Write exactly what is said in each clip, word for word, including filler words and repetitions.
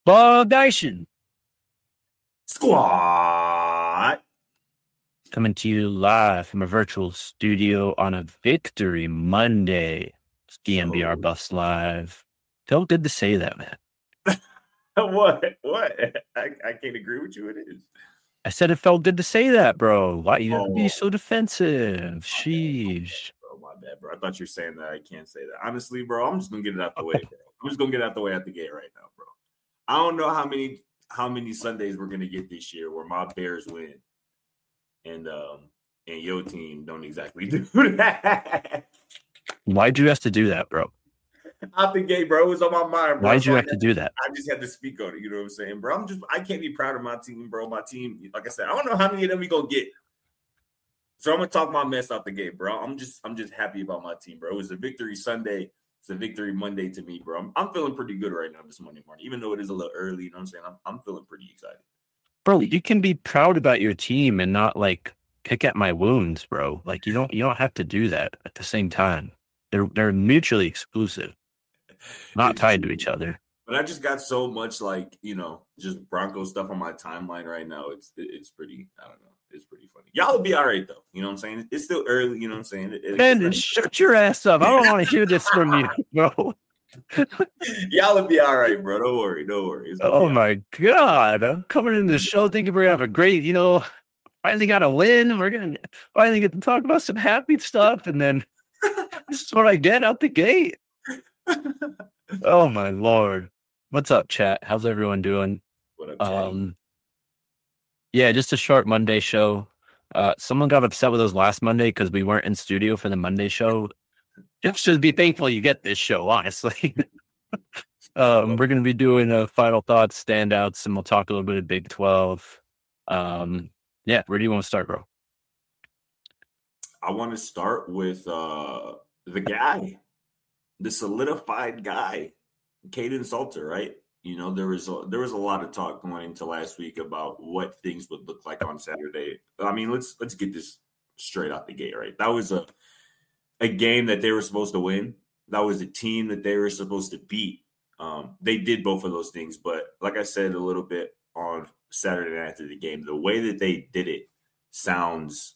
Ball Nation Squad. coming to you live from a virtual studio on a Victory Monday. It's D M B R So- Buffs Live. Felt good to say that, man. What? What? I, I can't agree with you. It is. I said it felt good to say that, bro. Why you have to be Oh. so defensive? Sheesh. Bro, my bad, bro. I thought you were saying that. I can't say that. Honestly, bro, I'm just gonna get it out the way, bro. I'm just gonna get it out the way at the gate right now, bro. I don't know how many how many Sundays we're gonna get this year where my Bears win, and um and your team don't exactly do that. Why'd you have to do that, bro? Out the gate, bro. It was on my mind, bro. Why'd So you I have to do that? I just had to speak on it. You know what I'm saying, bro? I'm just I can't be proud of my team, bro. My team, like I said, I don't know how many of them we gonna get. So I'm gonna talk my mess out the gate, bro. I'm just I'm just happy about my team, bro. It was a victory Sunday. It's a victory Monday to me, bro. I'm, I'm feeling pretty good right now this Monday morning, even though it is a little early. You know what I'm saying? I'm I'm feeling pretty excited. Bro, you can be proud about your team and not like pick at my wounds, bro. Like you don't you don't have to do that at the same time. They're they're mutually exclusive, not It's tied true. to each other. But I just got so much like, you know, just Broncos stuff on my timeline right now. It's it, it's pretty, I don't know. It's pretty funny. Y'all will be all right, though. You know what I'm saying? It's still early. You know what I'm saying? It, Man, not, shut your ass up. I don't want to hear this from you, bro. Y'all will be all right, bro. Don't worry. Don't worry. It's Oh, my my God. I'm coming into the show thinking we're going to have a great, you know, finally got a win. We're going to finally get to talk about some happy stuff. And then this is what I get out the gate. Oh, my Lord. What's up, chat? How's everyone doing? What up, Chatty? Um, yeah, just a short Monday show. Uh, someone got upset with us last Monday because we weren't in studio for the Monday show. Just should be thankful you get this show, honestly. um, we're going to be doing a final thoughts, standouts, and we'll talk a little bit of Big twelve. Um, yeah, where do you want to start, bro? I want to start with uh, the guy, the solidified guy, Kaidon Salter, right? You know, there was a, there was a lot of talk going into last week about what things would look like on Saturday. I mean, let's let's get this straight out the gate, right? That was a a game that they were supposed to win. That was a team that they were supposed to beat. Um, they did both of those things, but like I said a little bit on Saturday night after the game, the way that they did it sounds,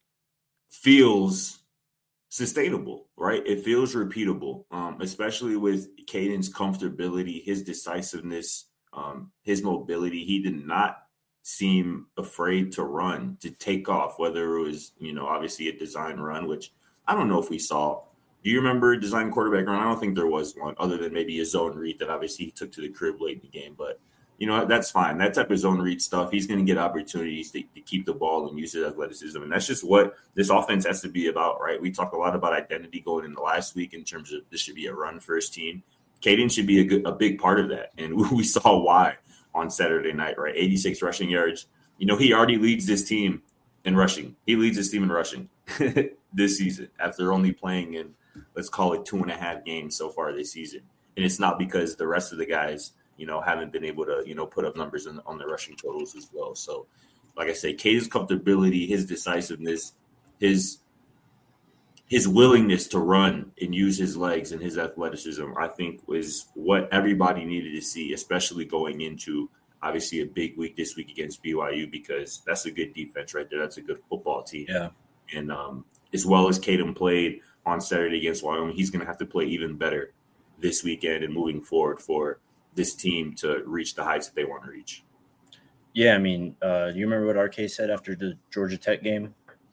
feels sustainable, right? It feels repeatable, um, especially with Caden's comfortability, his decisiveness, um, his mobility. He did not seem afraid to run, to take off, whether it was, you know, obviously a design run, which I don't know if we saw. Do you remember a design quarterback run? I don't think there was one other than maybe a zone read that obviously he took to the crib late in the game, but you know, that's fine. That type of zone read stuff, he's going to get opportunities to, to keep the ball and use his athleticism. And that's just what this offense has to be about, right? We talked a lot about identity going into last week in terms of this should be a run-first team. Caden should be a, good, a big part of that. And we saw why on Saturday night, right? eighty-six rushing yards. You know, he already leads this team in rushing. He leads this team in rushing this season after only playing in, let's call it, two and a half games so far this season. And it's not because the rest of the guys – you know, haven't been able to, you know, put up numbers in, on the rushing totals as well. So, like I say, Caden's comfortability, his decisiveness, his his willingness to run and use his legs and his athleticism, I think was what everybody needed to see, especially going into, obviously, a big week this week against B Y U, because that's a good defense right there. That's a good football team. Yeah. And um, as well as Caden played on Saturday against Wyoming, he's going to have to play even better this weekend and moving forward for this team to reach the heights that they want to reach. Yeah, I mean, uh, do you remember what R K said after the Georgia Tech game?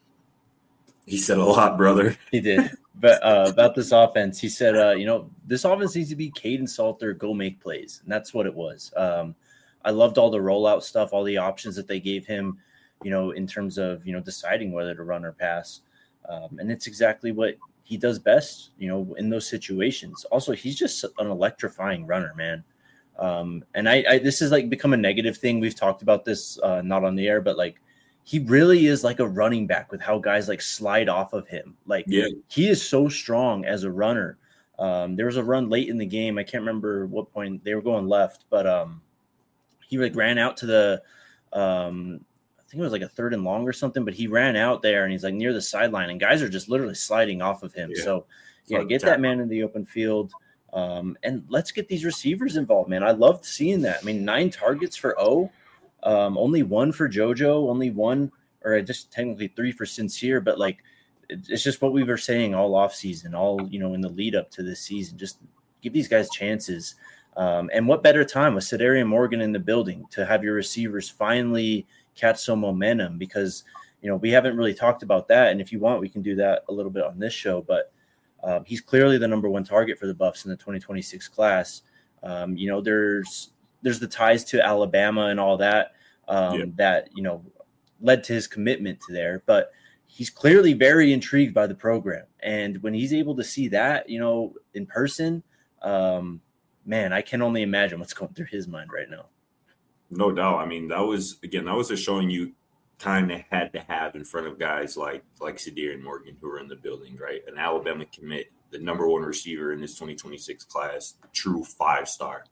He said a lot, brother. He did. But uh, about this offense, he said, uh, you know, this offense needs to be Kaidon Salter, go make plays. And that's what it was. Um, I loved all the rollout stuff, all the options that they gave him, you know, in terms of, you know, deciding whether to run or pass. Um, and it's exactly what he does best, you know, in those situations. Also, he's just an electrifying runner, man. Um, and I, I, this is like become a negative thing. We've talked about this, uh, not on the air, but like, he really is like a running back with how guys like slide off of him. Like yeah. he is so strong as a runner. Um, there was a run late in the game. I can't remember what point they were going left, but, um, he like ran out to the, um, I think it was like a third and long or something, but he ran out there and he's like near the sideline and guys are just literally sliding off of him. Yeah. So yeah, get that man in the open field. Um, and let's get these receivers involved, man. I loved seeing that. I mean, nine targets for O, um, only one for JoJo, only one, or just technically three for Sincere. But like, it's just what we were saying all offseason, all, you know, in the lead up to this season. Just give these guys chances. Um, and what better time with Sedarian Morgan in the building to have your receivers finally catch some momentum, because, you know, we haven't really talked about that. And if you want, we can do that a little bit on this show. But um, he's clearly the number one target for the Buffs in the twenty twenty-six class. Um, you know, there's there's the ties to Alabama and all that um, yeah. that, you know, led to his commitment to there. But he's clearly very intrigued by the program. And when he's able to see that, you know, in person, um, man, I can only imagine what's going through his mind right now. No doubt. I mean, that was, again, that was just showing you time they had to have in front of guys like like Sedarian Morgan, who were in the building, right? An Alabama commit, the number one receiver in this twenty twenty-six class, true five-star.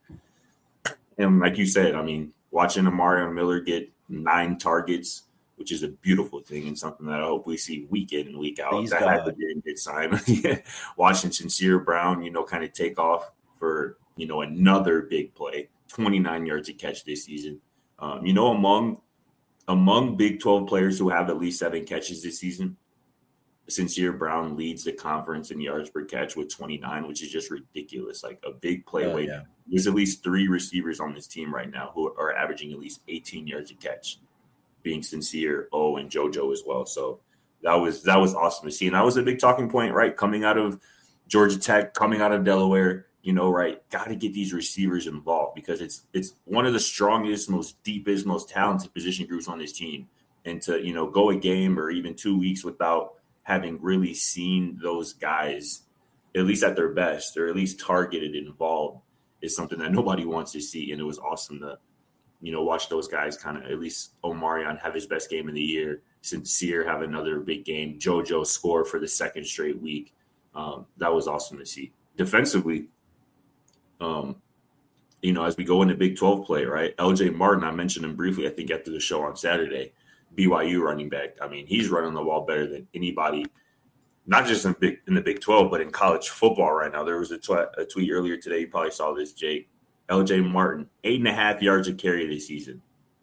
And like you said, I mean, watching Amarion Miller get nine targets, which is a beautiful thing and something that I hope we see week in and week out. Please that God. had to be a good sign. yeah. Watching Sincere Brown, you know, kind of take off for, you know, another big play, twenty-nine yards a catch this season. Um, you know, among among Big twelve players who have at least seven catches this season, Sincere Brown leads the conference in yards per catch with twenty-nine, which is just ridiculous. Like a big play oh, weight. Yeah. There's at least three receivers on this team right now who are averaging at least eighteen yards a catch, being Sincere, O, and JoJo as well. So that was that was awesome to see. And that was a big talking point, right? Coming out of Georgia Tech, coming out of Delaware, you know, right? Got to get these receivers involved, because it's it's one of the strongest, most deepest, most talented position groups on this team. And to, you know, go a game or even two weeks without having really seen those guys, at least at their best, or at least targeted and involved, is something that nobody wants to see. And it was awesome to, you know, watch those guys kind of, at least Omarion have his best game of the year, Sincere have another big game, JoJo score for the second straight week. Um, that was awesome to see. Defensively, um, you know, as we go into Big twelve play, right? L J Martin, I mentioned him briefly, I think, after the show on Saturday, B Y U running back. I mean, he's running the ball better than anybody, not just in big in the Big twelve, but in college football right now. There was a, tw- a tweet earlier today. You probably saw this, Jake. L J Martin, eight and a half yards a carry this season.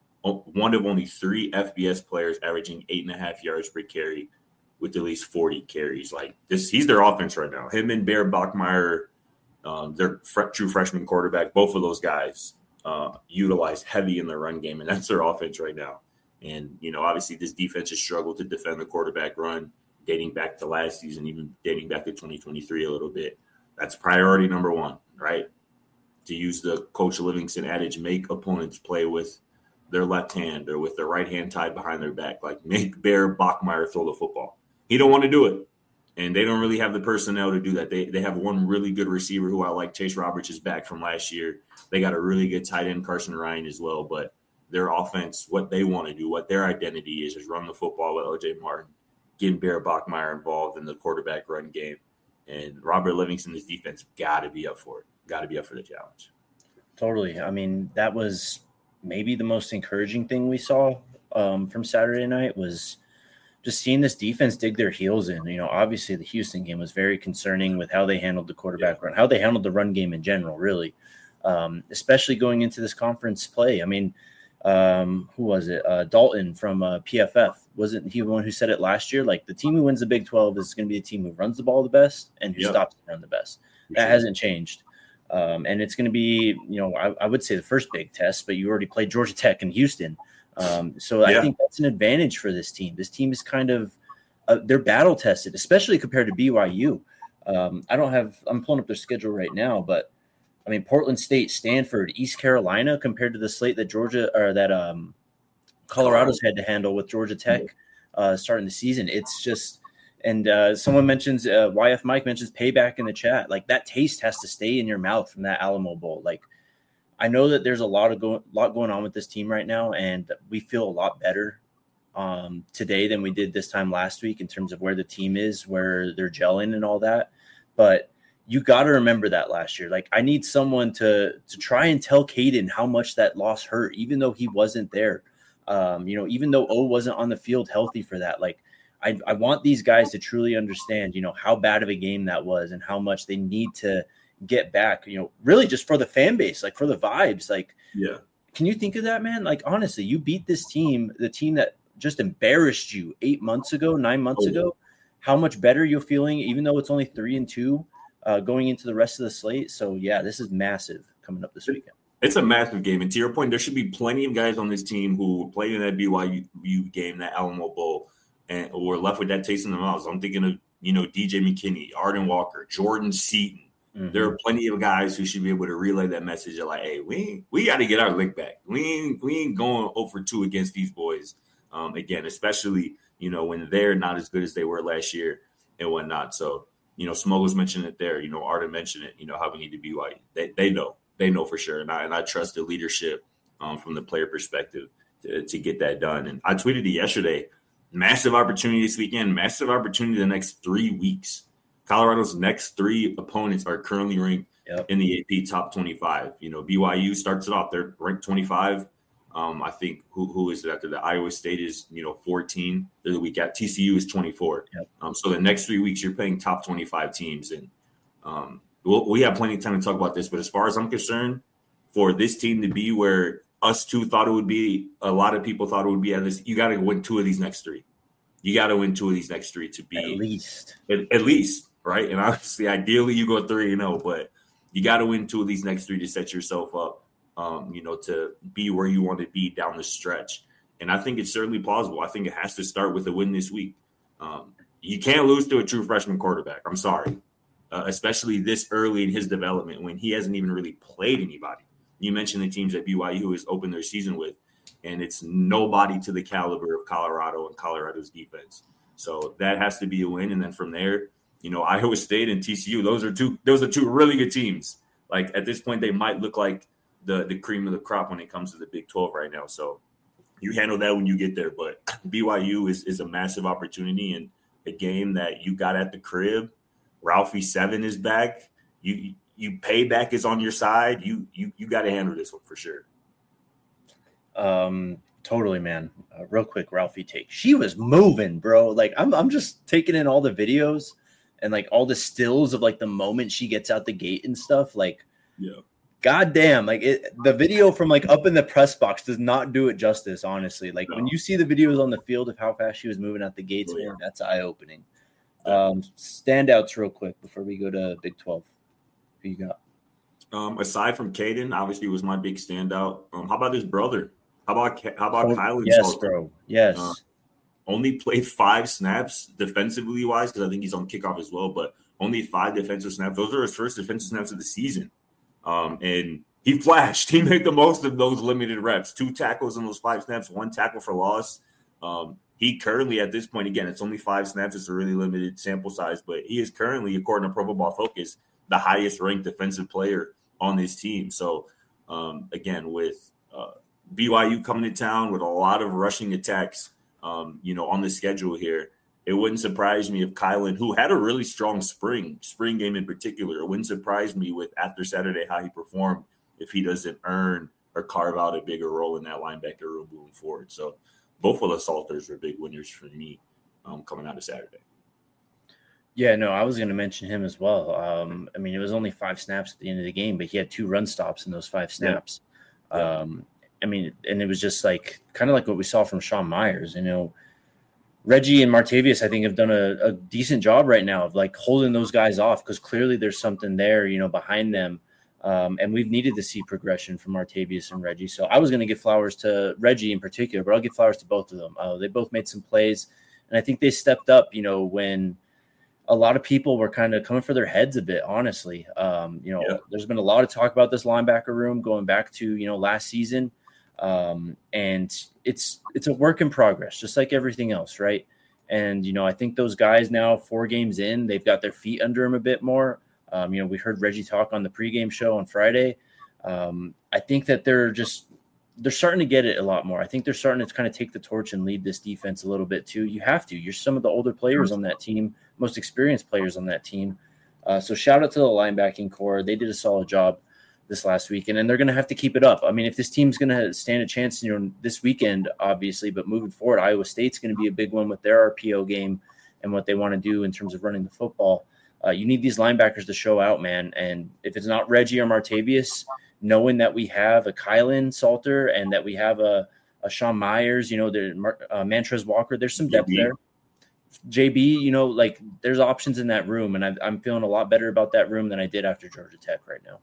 One of only three F B S players averaging eight and a half yards per carry with at least forty carries. Like this, he's their offense right now. Him and Bear Bachmeier, um, their fr- true freshman quarterback, both of those guys uh, utilize heavy in their run game, and that's their offense right now. And, you know, obviously this defense has struggled to defend the quarterback run dating back to last season, even dating back to twenty twenty-three a little bit. That's priority number one, right? To use the Coach Livingston adage, make opponents play with their left hand or with their right hand tied behind their back. Like, make Bear Bachmeier throw the football. He don't want to do it. And they don't really have the personnel to do that. They they have one really good receiver who I like. Chase Roberts is back from last year. They got a really good tight end, Carson Ryan, as well. But their offense, what they want to do, what their identity is, is run the football with L J Martin, getting Bear Bachmeier involved in the quarterback run game. And Robert Livingston's defense got to be up for it. Got to be up for the challenge. Totally. I mean, that was maybe the most encouraging thing we saw um, from Saturday night was just seeing this defense dig their heels in. You know, obviously the Houston game was very concerning with how they handled the quarterback yeah. run, how they handled the run game in general, really, um, especially going into this conference play. I mean, um, who was it? Uh, Dalton from uh, P F F. Wasn't he the one who said it last year? Like, the team who wins the Big twelve is going to be the team who runs the ball the best and who yep. stops to run the best. For that sure. hasn't changed. Um, and it's going to be, you know, I, I would say the first big test, but you already played Georgia Tech and Houston. Um, so yeah. I think that's an advantage for this team. This team is kind of, uh, they're battle tested, especially compared to B Y U. Um, I don't have, I'm pulling up their schedule right now, but I mean, Portland State, Stanford, East Carolina, compared to the slate that Georgia or that um, Colorado's had to handle with Georgia Tech uh, starting the season. It's just, and uh, someone mentions, uh, Y F Mike mentions payback in the chat. Like, that taste has to stay in your mouth from that Alamo Bowl. Like, I know that there's a lot of go- lot going on with this team right now, and we feel a lot better um, today than we did this time last week in terms of where the team is, where they're gelling and all that. But you got to remember that last year. Like, I need someone to to try and tell Caden how much that loss hurt, even though he wasn't there. Um, you know, even though O wasn't on the field healthy for that. Like, I, I want these guys to truly understand, you know, how bad of a game that was and how much they need to get back, you know, really just for the fan base, like for the vibes. Like, yeah. Can you think of that, man? Like, honestly, you beat this team, the team that just embarrassed you eight months ago, nine months oh, ago. How much better you're feeling, even though it's only three and two uh, going into the rest of the slate. So, yeah, this is massive coming up this weekend. It's a massive game. And to your point, there should be plenty of guys on this team who played in that B Y U game, that Alamo Bowl, and were left with that taste in their mouths. I'm thinking of, you know, D J McKinney, Arden Walker, Jordan Seaton. Mm-hmm. There are plenty of guys who should be able to relay that message of like, hey, we we got to get our lick back. We ain't, we ain't going oh for two against these boys. Um, again, especially, you know, when they're not as good as they were last year and whatnot. So, you know, Smuggles mentioned it there. You know, Arden mentioned it, you know, how we need to be white. They, they know. They know for sure. And I, and I trust the leadership um, from the player perspective to, to get that done. And I tweeted it yesterday. Massive opportunity this weekend. Massive opportunity the next three weeks. Colorado's next three opponents are currently ranked yep. in the A P top twenty-five. You know, B Y U starts it off. They're ranked twenty-five. Um, I think who who is it after that? Iowa State is, you know, fourteen. The week at T C U is twenty-four. Yep. Um, so the next three weeks you're playing top twenty-five teams. And um, we'll, we have plenty of time to talk about this. But as far as I'm concerned, for this team to be where us two thought it would be, a lot of people thought it would be at this, you got to win two of these next three. You got to win two of these next three to be at least, at, at least, right? And obviously, ideally, you go three and zero, but you got to win two of these next three to set yourself up, um, you know, to be where you want to be down the stretch. And I think it's certainly plausible. I think it has to start with a win this week. Um, you can't lose to a true freshman quarterback. I'm sorry, uh, especially this early in his development when he hasn't even really played anybody. You mentioned the teams that B Y U has opened their season with, and it's nobody to the caliber of Colorado and Colorado's defense. So that has to be a win. And then from there, you know, Iowa State and T C U, those are two, those are two really good teams. Like at this point, they might look like the, the cream of the crop when it comes to the Big twelve right now. So you handle that when you get there. But B Y U is, is a massive opportunity, and a game that you got at the crib. Ralphie Seven is back. You, you payback is on your side. You, you, you got to handle this one for sure. Um, totally, man. Uh, real quick, Ralphie take. She was moving, bro. Like I'm, I'm just taking in all the videos and like all the stills of like the moment she gets out the gate and stuff. Like, yeah, goddamn. Like it, the video from like up in the press box does not do it justice. Honestly, like no. when you see the videos on the field of how fast she was moving out the gates, oh, man, yeah. that's eye opening. Um, standouts, real quick, before we go to Big twelve. Who you got? Um, aside from Caden, obviously was my big standout. Um, how about his brother? How about how about oh, Kylan? Yes, Salter? bro. Yes. Uh, only played five snaps defensively wise because I think he's on kickoff as well. But only five defensive snaps. Those are his first defensive snaps of the season. Um, and he flashed. He made the most of those limited reps. Two tackles in those five snaps. One tackle for loss. Um, he currently at this point, again, it's only five snaps. It's a really limited sample size, but he is currently, according to Pro Football Focus, the highest ranked defensive player on this team. So um, again, with uh, B Y U coming to town with a lot of rushing attacks, um, you know, on the schedule here, it wouldn't surprise me if Kylan, who had a really strong spring, spring game in particular, it wouldn't surprise me with after Saturday how he performed if he doesn't earn or carve out a bigger role in that linebacker room moving forward. So both of the Salters were big winners for me um, coming out of Saturday. Yeah, no, I was going to mention him as well. Um, I mean, it was only five snaps at the end of the game, but he had two run stops in those five snaps. Yeah. Um, I mean, and it was just like kind of like what we saw from Sean Myers. You know, Reggie and Martavius, I think, have done a, a decent job right now of like holding those guys off because clearly there's something there, you know, behind them. Um, and we've needed to see progression from Martavius and Reggie. So I was going to give flowers to Reggie in particular, but I'll give flowers to both of them. Uh, they both made some plays, and I think they stepped up, you know, when a lot of people were kind of coming for their heads a bit, honestly. Um, you know, yeah. There's been a lot of talk about this linebacker room going back to, you know, last season. Um, and it's it's a work in progress, just like everything else, right? And, you know, I think those guys now, four games in, they've got their feet under them a bit more. Um, you know, we heard Reggie talk on the pregame show on Friday. Um, I think that they're just they're starting to get it a lot more. I think they're starting to kind of take the torch and lead this defense a little bit too. You have to. You're some of the older players on that team, most experienced players on that team. Uh, so shout out to the linebacking core. They did a solid job this last weekend, and they're going to have to keep it up. I mean, if this team's going to stand a chance, you know, this weekend, obviously, but moving forward, Iowa State's going to be a big one with their R P O game and what they want to do in terms of running the football. uh, you need these linebackers to show out, man. And if it's not Reggie or Martavius, knowing that we have a Kylan Salter and that we have a, a Sean Myers, you know, there, uh, Mantrez Walker, there's some depth J B there. J B, you know, like there's options in that room, and I, I'm feeling a lot better about that room than I did after Georgia Tech right now.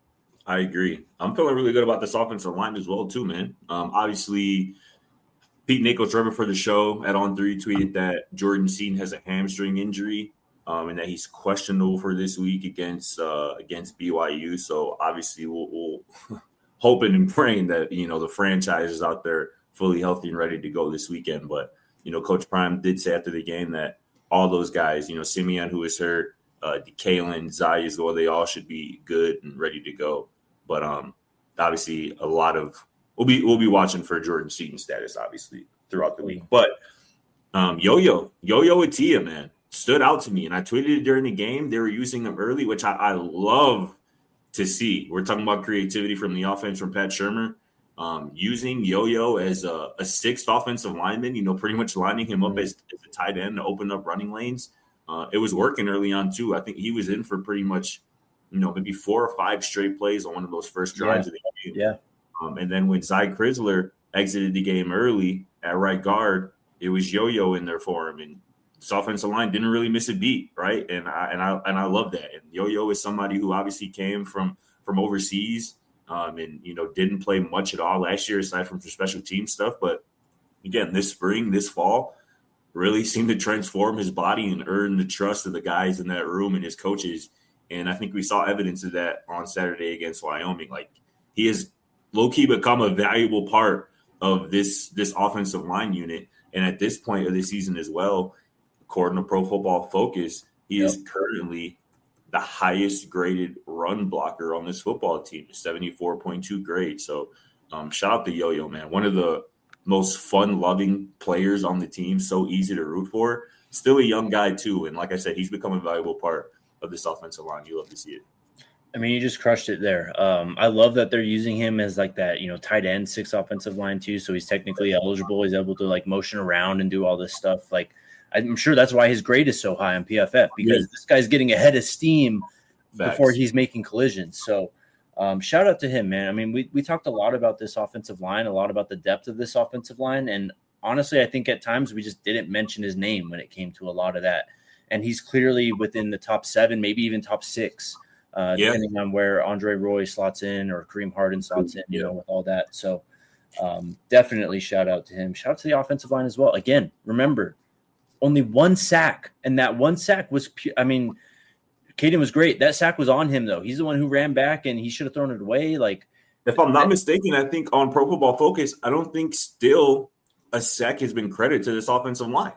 I agree. I'm feeling really good about this offensive line as well, too, man. Um, obviously, Pete Nichols, Trevor for the show at On three tweeted that Jordan Seaton has a hamstring injury um, and that he's questionable for this week against uh, against B Y U. So obviously, we'll, we'll hoping and praying that you know the franchise is out there fully healthy and ready to go this weekend. But you know, Coach Prime did say after the game that all those guys, you know, Simeon, who is hurt, uh, DeKalen, Zai as well, they all should be good and ready to go. But um, obviously, a lot of we'll be we'll be watching for Jordan Seaton status, obviously, throughout the week. But um, Yo-Yo, Yo-Yo Atia, man, stood out to me, and I tweeted it during the game. They were using them early, which I, I love to see. We're talking about creativity from the offense from Pat Shurmur. Um, using Yo-Yo as a, a sixth offensive lineman, you know, pretty much lining him up as, as a tight end to open up running lanes. Uh, it was working early on, too. I think he was in for pretty much, you know, maybe four or five straight plays on one of those first drives yeah. of the game. Yeah. Um, and then when Zy Crisler exited the game early at right guard, it was Yo-Yo in there for him. And this offensive line didn't really miss a beat, right? And I and I and I love that. And Yo-Yo is somebody who obviously came from from overseas. Um, and, you know, didn't play much at all last year aside from some special team stuff. But, again, this spring, this fall, really seemed to transform his body and earn the trust of the guys in that room and his coaches. And I think we saw evidence of that on Saturday against Wyoming. Like, he has low-key become a valuable part of this, this offensive line unit. And at this point of the season as well, according to Pro Football Focus, he yep. is currently – the highest graded run blocker on this football team, seventy-four point two grade. So um, shout out to Yo-Yo, man. One of the most fun-loving players on the team, so easy to root for. Still a young guy, too. And like I said, he's become a valuable part of this offensive line. You love to see it. I mean, you just crushed it there. Um, I love that they're using him as like that, you know, tight end, six offensive line, too. So he's technically eligible. He's able to, like, motion around and do all this stuff. Like, I'm sure that's why his grade is so high on P F F, because yeah. this guy's getting ahead of steam Facts. before he's making collisions. So um, shout out to him, man. I mean, we we talked a lot about this offensive line, a lot about the depth of this offensive line. And honestly, I think at times we just didn't mention his name when it came to a lot of that. And he's clearly within the top seven, maybe even top six, uh, yeah. depending on where Andre Roy slots in or Kareem Harden slots in, you yeah. know, with all that. So um, definitely shout out to him. Shout out to the offensive line as well. Again, remember, only one sack, and that one sack was – I mean, Caden was great. That sack was on him, though. He's the one who ran back, and he should have thrown it away. Like, if I'm not mistaken, I think on Pro Football Focus, I don't think still a sack has been credited to this offensive line.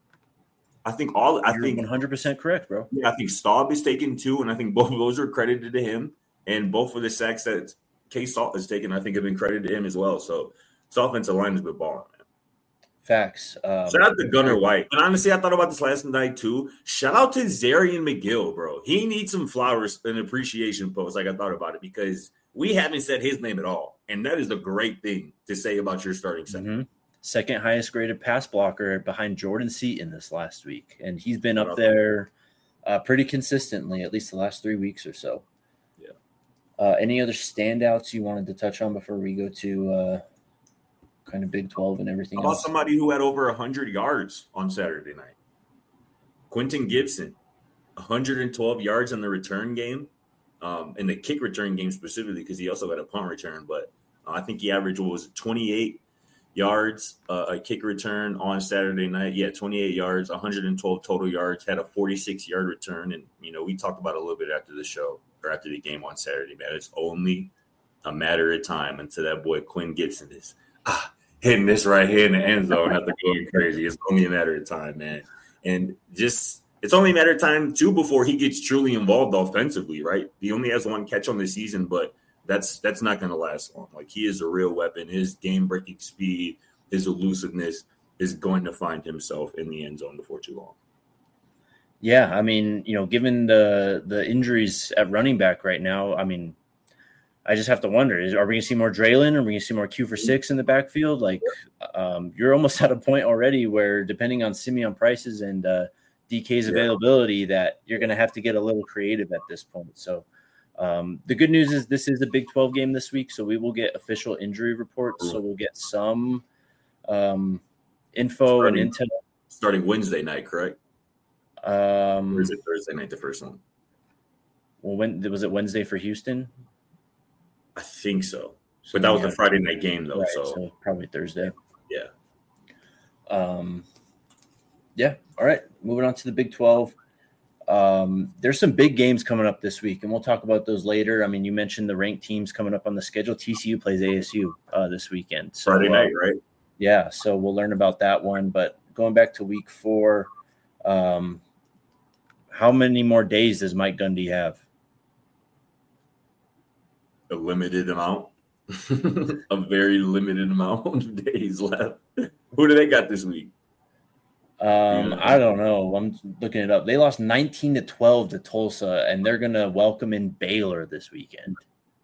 I think all – I think one hundred percent correct, bro. Yeah, I think Staub is taken two, and I think both of those are credited to him, and both of the sacks that K-Salt has taken, I think, have been credited to him as well. So this offensive line has been balling, man. Facts. Um, Shout out to Gunnar White. And honestly, I thought about this last night too. Shout out to Zarian McGill, bro. He needs some flowers and appreciation post. Like I thought about it because we haven't said his name at all. And that is a great thing to say about your starting center. Mm-hmm. Second highest graded pass blocker behind Jordan Seaton this last week. And he's been up there uh, pretty consistently, at least the last three weeks or so. Yeah. Uh, any other standouts you wanted to touch on before we go to uh, – kind of Big twelve and everything How about else? Somebody who had over one hundred yards on Saturday night? Quentin Gibson, one hundred twelve yards in the return game, um, in the kick return game specifically because he also had a punt return. But uh, I think he averaged, what was it, twenty-eight yards, uh, a kick return on Saturday night. Yeah, twenty-eight yards, one hundred twelve total yards, had a forty-six-yard return. And, you know, we talked about it a little bit after the show or after the game on Saturday, man. It's only a matter of time until that boy Quinn Gibson is ah, hitting this right here in the end zone after going crazy. It's only a matter of time, man. And just it's only a matter of time, too, before he gets truly involved offensively, right? He only has one catch on the season, but that's that's not going to last long. Like, he is a real weapon. His game-breaking speed, his elusiveness is going to find himself in the end zone before too long. Yeah, I mean, you know, given the the injuries at running back right now, I mean, I just have to wonder, is, are we going to see more Draylon? Are we going to see more Q for six in the backfield? Like, um, you're almost at a point already where, depending on Simeon Price's and uh, D K's Yeah. availability that you're going to have to get a little creative at this point. So um, the good news is this is a Big twelve game this week, so we will get official injury reports. So we'll get some um, info starting, and intel. Starting Wednesday night, correct? Um, or is it Thursday night, the first one? Well, when was it Wednesday for Houston? I think so. So But that was yeah, a Friday night game, though. right, so. so probably Thursday. Yeah. Um, yeah. All right. Moving on to the Big twelve. Um, there's some big games coming up this week, and we'll talk about those later. I mean, you mentioned the ranked teams coming up on the schedule. T C U plays A S U uh, this weekend. So, Friday night, uh, right? Yeah. So we'll learn about that one. But going back to week four, um, how many more days does Mike Gundy have? A limited amount. A very limited amount of days left. Who do they got this week? Um, Yeah. I don't know. I'm looking it up. They lost nineteen to twelve to Tulsa, and they're going to welcome in Baylor this weekend.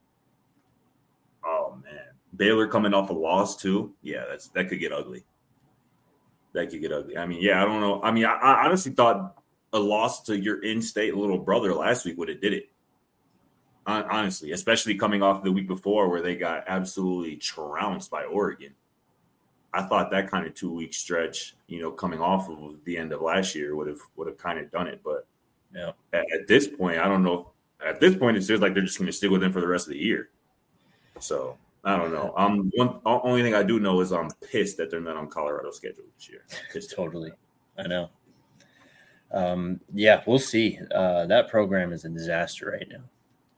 Oh man, Baylor coming off a loss too. Yeah, that's that could get ugly. That could get ugly. I mean, yeah, I don't know. I mean, I, I honestly thought a loss to your in-state little brother last week would have did it. Hon- Honestly, especially coming off the week before where they got absolutely trounced by Oregon. I thought that kind of two-week stretch, you know, coming off of the end of last year would have would have kind of done it. But Yeah. at, at this point, I don't know. At this point, it feels like they're just going to stick with them for the rest of the year. So I don't know. Um, one only thing I do know is I'm pissed that they're not on Colorado's schedule this year. Pissed. Totally. I know. Um, yeah, we'll see. Uh, that program is a disaster right now.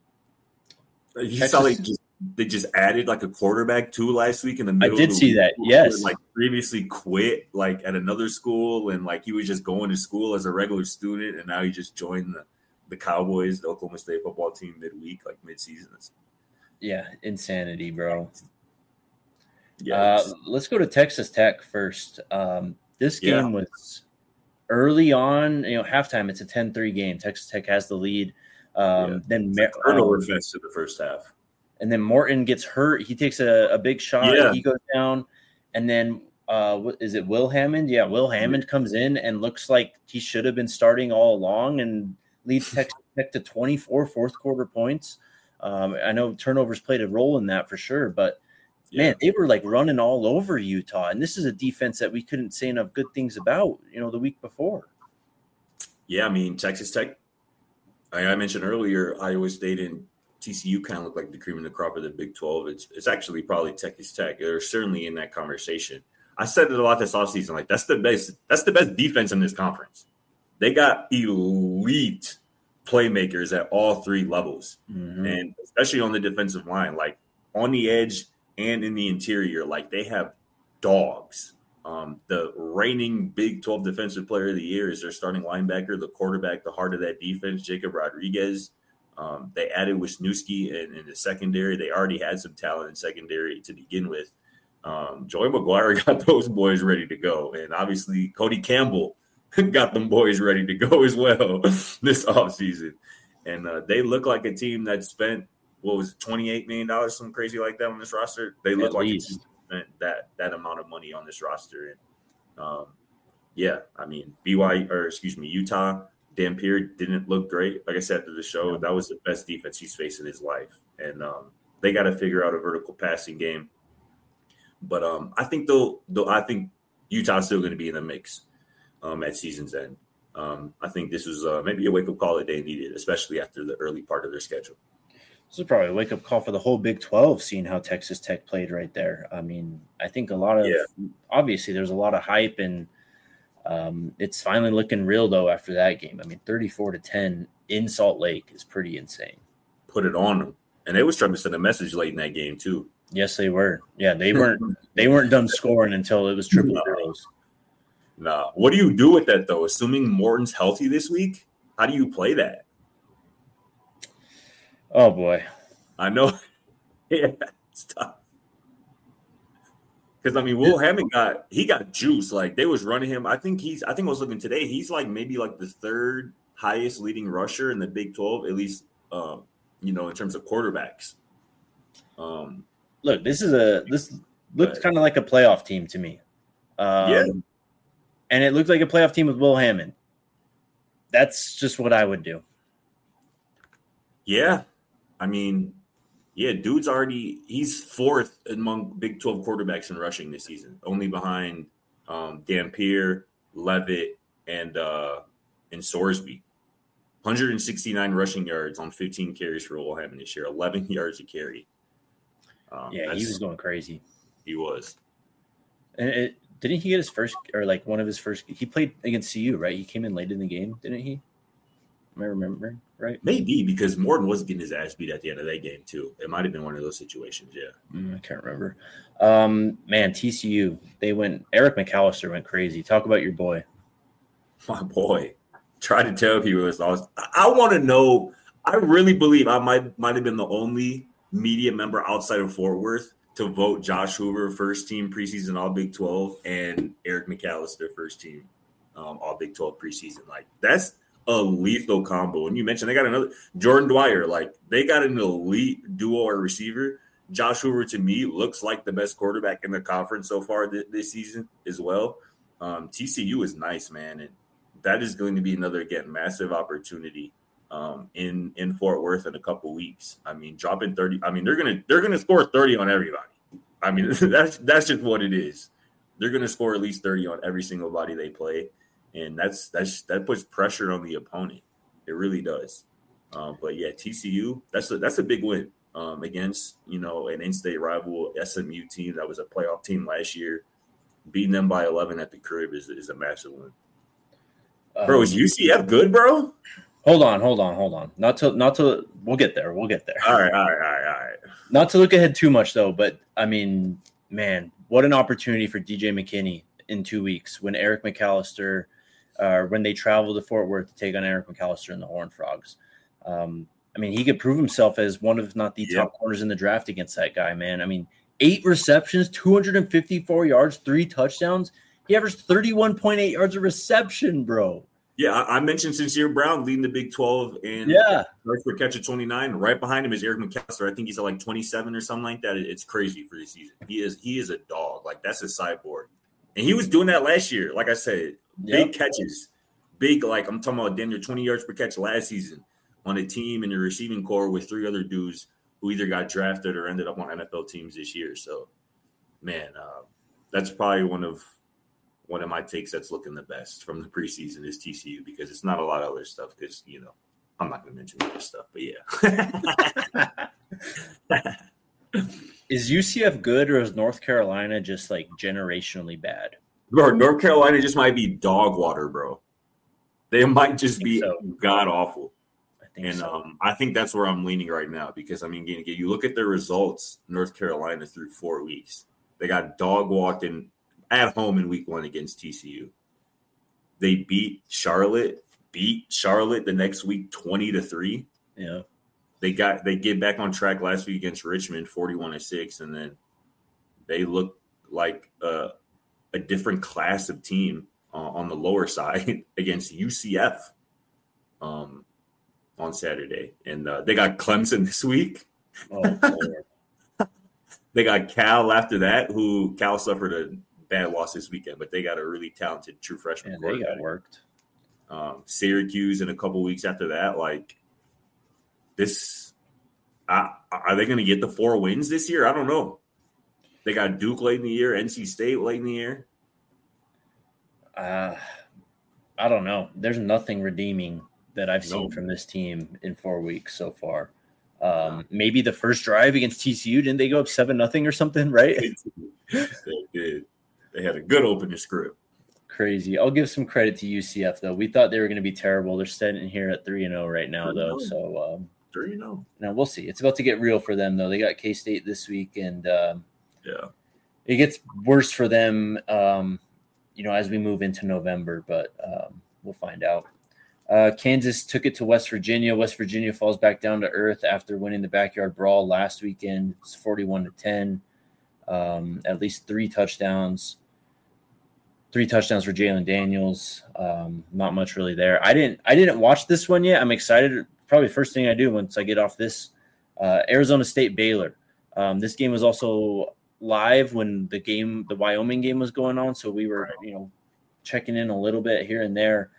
You Texas- saw they just they just added like a quarterback too last week in the middle. did of the see week, that, who yes. had, like previously quit like at another school and like he was just going to school as a regular student and now he just joined the, the Cowboys, the Oklahoma State football team midweek, like mid-season. Yeah, insanity, bro. Yeah, Uh, it's- let's go to Texas Tech first. Um, this game Yeah. was early on, you know, halftime. It's a ten three game. Texas Tech has the lead. Um, Yeah. Then it's Mar- a turnover um, fest in the first half. and then Morton gets hurt. He takes a, a big shot. Yeah. He goes down. And then uh, what is it, Will Hammond? Yeah, Will Hammond comes in and looks like he should have been starting all along and leads Texas Tech to twenty-four fourth quarter points. Um, I know turnovers played a role in that for sure, but Yeah. man, they were like running all over Utah. And this is a defense that we couldn't say enough good things about, you know, the week before. Yeah, I mean, Texas Tech, I, I mentioned earlier, Iowa State and T C U kind of look like the cream of the crop of the Big twelve. It's it's actually probably Texas Tech. They're certainly in that conversation. I said it a lot this offseason. Like, that's the best, that's the best defense in this conference. They got elite playmakers at all three levels. Mm-hmm. And especially on the defensive line, like on the edge and in the interior, like they have dogs. Um, the reigning Big twelve Defensive Player of the Year is their starting linebacker, the quarterback, the heart of that defense, Jacob Rodriguez. Um, they added Wisniewski in, in the secondary. They already had some talent in secondary to begin with. Um, Joey McGuire got those boys ready to go. And obviously Cody Campbell got them boys ready to go as well this offseason. And uh, they look like a team that spent, what was it, twenty-eight million dollars, something crazy like that on this roster. They look At like least. a team that spent that, that amount of money on this roster. And um, yeah, I mean, B Y U, or excuse me, Utah, Dampier didn't look great. Like I said to the show, Yeah. that was the best defense he's faced in his life. And um, they got to figure out a vertical passing game. But um, I think they'll, they'll, I think Utah's still going to be in the mix um, at season's end. Um, I think this was uh, maybe a wake-up call that they needed, especially after the early part of their schedule. This is probably a wake-up call for the whole Big twelve, seeing how Texas Tech played right there. I mean, I think a lot of Yeah. obviously there's a lot of hype, and um, it's finally looking real though after that game. I mean, thirty-four to ten in Salt Lake is pretty insane. Put it on them, and they was trying to send a message late in that game too. Yes, they were. Yeah, they weren't they weren't done scoring until it was triple No. zeros. Nah, what do you do with that though? Assuming Morton's healthy this week, how do you play that? Oh boy. I know, yeah, it's tough. Because I mean, Will Hammond got he got juice. Like they was running him. I think he's. I think I was looking today. He's like maybe like the third highest leading rusher in the Big twelve, at least. Um, you know, in terms of quarterbacks. Um, Look, this is a this looked But- kind of like a playoff team to me. Um, Yeah. and it looked like a playoff team with Will Hammond. that's just what I would do. Yeah. I mean, yeah, dude's already – he's fourth among Big twelve quarterbacks in rushing this season, only behind um, Dampier, Levitt, and uh, and Sorsby. one hundred sixty-nine rushing yards on fifteen carries for Wilhelm this year, eleven yards a carry. Um, yeah, he was going crazy. He was. And it, didn't he get his first – or like one of his first – he played against C U, right? He came in late in the game, didn't he? Am I remembering right? Maybe, because Morton was getting his ass beat at the end of that game too. It might have been one of those situations, yeah. Mm, I can't remember. Um, man, T C U, they went – Eric McAllister went crazy. Talk about your boy. My boy. Try to tell people it's lost. I, I want to know – I really believe I might might have been the only media member outside of Fort Worth to vote Josh Hoover first team preseason All Big twelve and Eric McAllister first team um, All Big twelve preseason. Like, that's – a lethal combo. And you mentioned they got another Jordan Dwyer. Like, they got an elite duo or receiver. Josh Hoover, to me, looks like the best quarterback in the conference so far th- this season as well. Um, T C U is nice, man. And that is going to be another, again, massive opportunity um, in, in Fort Worth in a couple weeks. I mean, dropping thirty. I mean, they're going to, they're going to score thirty on everybody. I mean, that's, that's just what it is. They're going to score at least thirty on every single body they play. And that's that's that puts pressure on the opponent. It really does. Um, but yeah, T C U, that's a that's a big win um, against, you know, an in-state rival S M U team that was a playoff team last year. Beating them by eleven at the crib is is a massive win. Um, bro, is U C F good, bro? Hold on, hold on, hold on. Not to not to we'll get there. We'll get there. All right, all right, all right, all right. Not to look ahead too much though, but I mean, man, what an opportunity for D J McKinney in two weeks when Eric McAllister. Uh, when they travel to Fort Worth to take on Eric McAllister and the Horned Frogs. Um, I mean, he could prove himself as one of, if not the yep. top corners in the draft against that guy, man. I mean, eight receptions, two hundred fifty-four yards, three touchdowns. He averaged thirty-one point eight yards a reception, bro. Yeah, I, I mentioned Sincere Brown leading the Big twelve and yeah. yards per catch at twenty-nine. Right behind him is Eric McAllister. I think he's at like twenty-seven or something like that. It, it's crazy for this season. He is he is a dog. Like, that's a cyborg. And he was doing that last year. Like I said, big yep. catches. Big, like I'm talking about damn near twenty yards per catch last season on a team in the receiving core with three other dudes who either got drafted or ended up on N F L teams this year. So, man, uh, that's probably one of one of my takes that's looking the best from the preseason is T C U, because it's not a lot of other stuff because, you know, I'm not going to mention other stuff, but yeah. Is U C F good, or is North Carolina just like generationally bad? Bro, North Carolina just might be dog water, bro. They might just be so. god awful. I think and so. um, I think that's where I'm leaning right now, because I mean, again, you look at their results, North Carolina through four weeks. They got dog walked in at home in week one against T C U. They beat Charlotte, beat Charlotte the next week twenty to three. Yeah. They got they get back on track last week against Richmond, forty-one to six, and then they look like uh, a different class of team uh, on the lower side against U C F um, on Saturday. And uh, they got Clemson this week. Oh, they got Cal after that, who Cal suffered a bad loss this weekend, but they got a really talented true freshman. Yeah, they got worked. Um, Syracuse in a couple weeks after that. Like, this, uh, are they going to get the four wins this year? I don't know. They got Duke late in the year, N C State late in the year. Uh, I don't know. There's nothing redeeming that I've seen No. from this team in four weeks so far. Um, maybe the first drive against T C U, didn't they go up seven nothing or something, right? They did. They had a good opening script. Crazy. I'll give some credit to U C F though. We thought they were going to be terrible. They're sitting here at three and zero right now, though. So um, three and zero. Now we'll see. It's about to get real for them, though. They got K-State this week, and um, yeah, it gets worse for them, um, you know, as we move into November. But um, we'll find out. Uh, Kansas took it to West Virginia. West Virginia falls back down to earth after winning the backyard brawl last weekend. It's forty-one to ten. Um, at least three touchdowns. Three touchdowns for Jalen Daniels. Um, not much really there. I didn't. I didn't watch this one yet. I'm excited. Probably first thing I do once I get off this. Uh, Arizona State Baylor. Um, this game was also live when the game, the Wyoming game, was going on. So we were, you know, checking in a little bit here and there.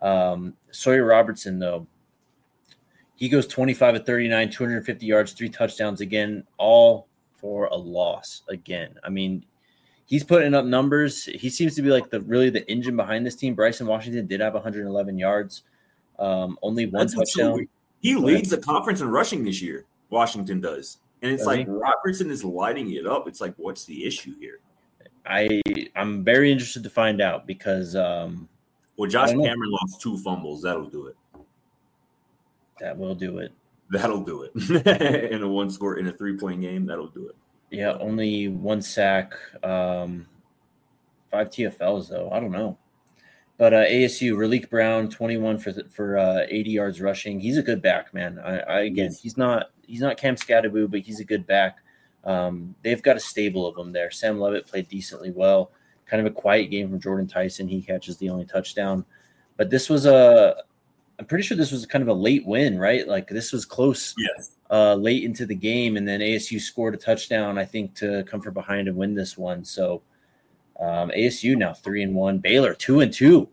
Um, Sawyer Robertson, though, he goes twenty-five of thirty-nine, two hundred fifty yards, three touchdowns again, all for a loss again. I mean, he's putting up numbers. He seems to be like the really the engine behind this team. Bryson Washington did have one hundred eleven yards, um, only one That's touchdown. He leads the conference in rushing this year. Washington does. And it's Does like he? Robertson is lighting it up. It's like, what's the issue here? I, I'm very interested to find out because um, Well, Josh Cameron lost two fumbles. That'll do it. that will do it. That'll do it. In a one score, in a three-point game, that'll do it. Yeah, only one sack, um, five T F Ls, though. I don't know. But uh, A S U, Raleek Brown, twenty-one for for uh, eighty yards rushing. He's a good back, man. I, I again, Yes. he's not he's not Cam Scatteraboo, but he's a good back. Um, they've got a stable of them there. Sam Levitt played decently well. Kind of a quiet game from Jordan Tyson. He catches the only touchdown. But this was a – I'm pretty sure this was kind of a late win, right? Like this was close Yes. uh, late into the game, and then A S U scored a touchdown, I think, to come from behind and win this one. So – Um, A S U now three and one. Baylor two and two.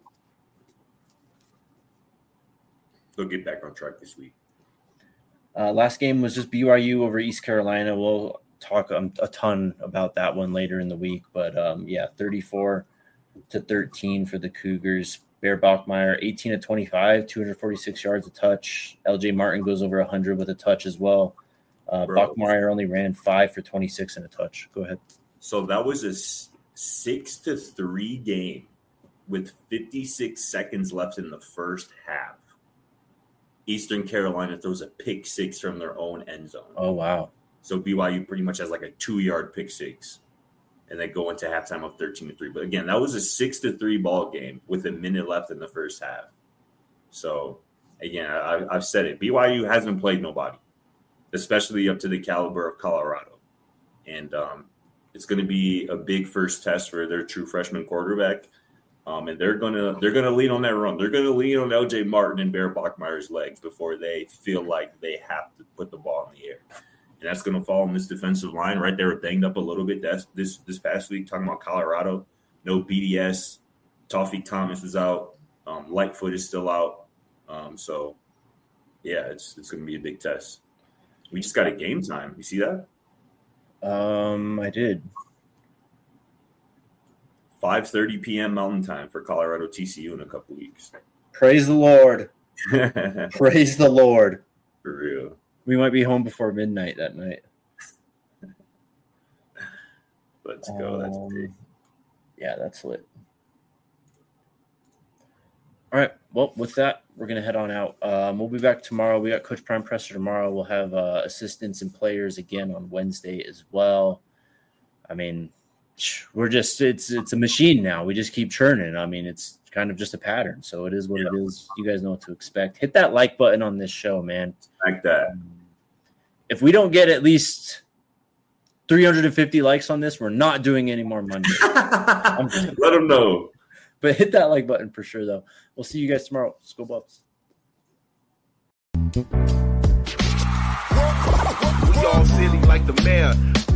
They'll get back on track this week. Uh, last game was just B Y U over East Carolina. We'll talk um, a ton about that one later in the week, but um, yeah, thirty-four to thirteen for the Cougars. Bear Bachmeier, eighteen to twenty-five, two hundred forty-six yards a touch. L J Martin goes over one hundred with a touch as well. Uh, Bachmeier only ran five for twenty-six and a touch. Go ahead. So that was a six to three game with fifty-six seconds left in the first half. Eastern Carolina throws a pick six from their own end zone. Oh, wow. So B Y U pretty much has like a two-yard pick six, and they go into halftime of thirteen to three. But again, that was a six to three ball game with a minute left in the first half. So again, I, I've said it. B Y U hasn't played nobody, especially up to the caliber of Colorado, and um, it's going to be a big first test for their true freshman quarterback. Um, and they're gonna they're gonna lean on that run. They're gonna lean on L J Martin and Bear Bachmeier's legs before they feel like they have to put the ball in the air. And that's gonna fall on this defensive line. Right, they were banged up a little bit that's this this past week. Talking about Colorado, no B D S. Toffee Thomas is out. Um, Lightfoot is still out. Um, so yeah, it's it's gonna be a big test. We just got a game time. You see that? Um, I did. five thirty p.m. Mountain Time for Colorado T C U in a couple weeks. Praise the Lord. Praise the Lord. For real. We might be home before midnight that night. Let's go. That's Um, big. Yeah, that's lit. All right. Well, with that, we're going to head on out. Um, we'll be back tomorrow. We got Coach Prime Presser tomorrow. We'll have uh, assistants and players again on Wednesday as well. I mean, we're just it's it's a machine now. We just keep churning. I mean, it's kind of just a pattern. So it is what yeah. it is. You guys know what to expect. Hit that like button on this show, man. Like that. If we don't get at least three hundred fifty likes on this, we're not doing any more Monday. Let them know. But hit that like button for sure, though. We'll see you guys tomorrow. Let's go Buffs. We all silly like the mayor.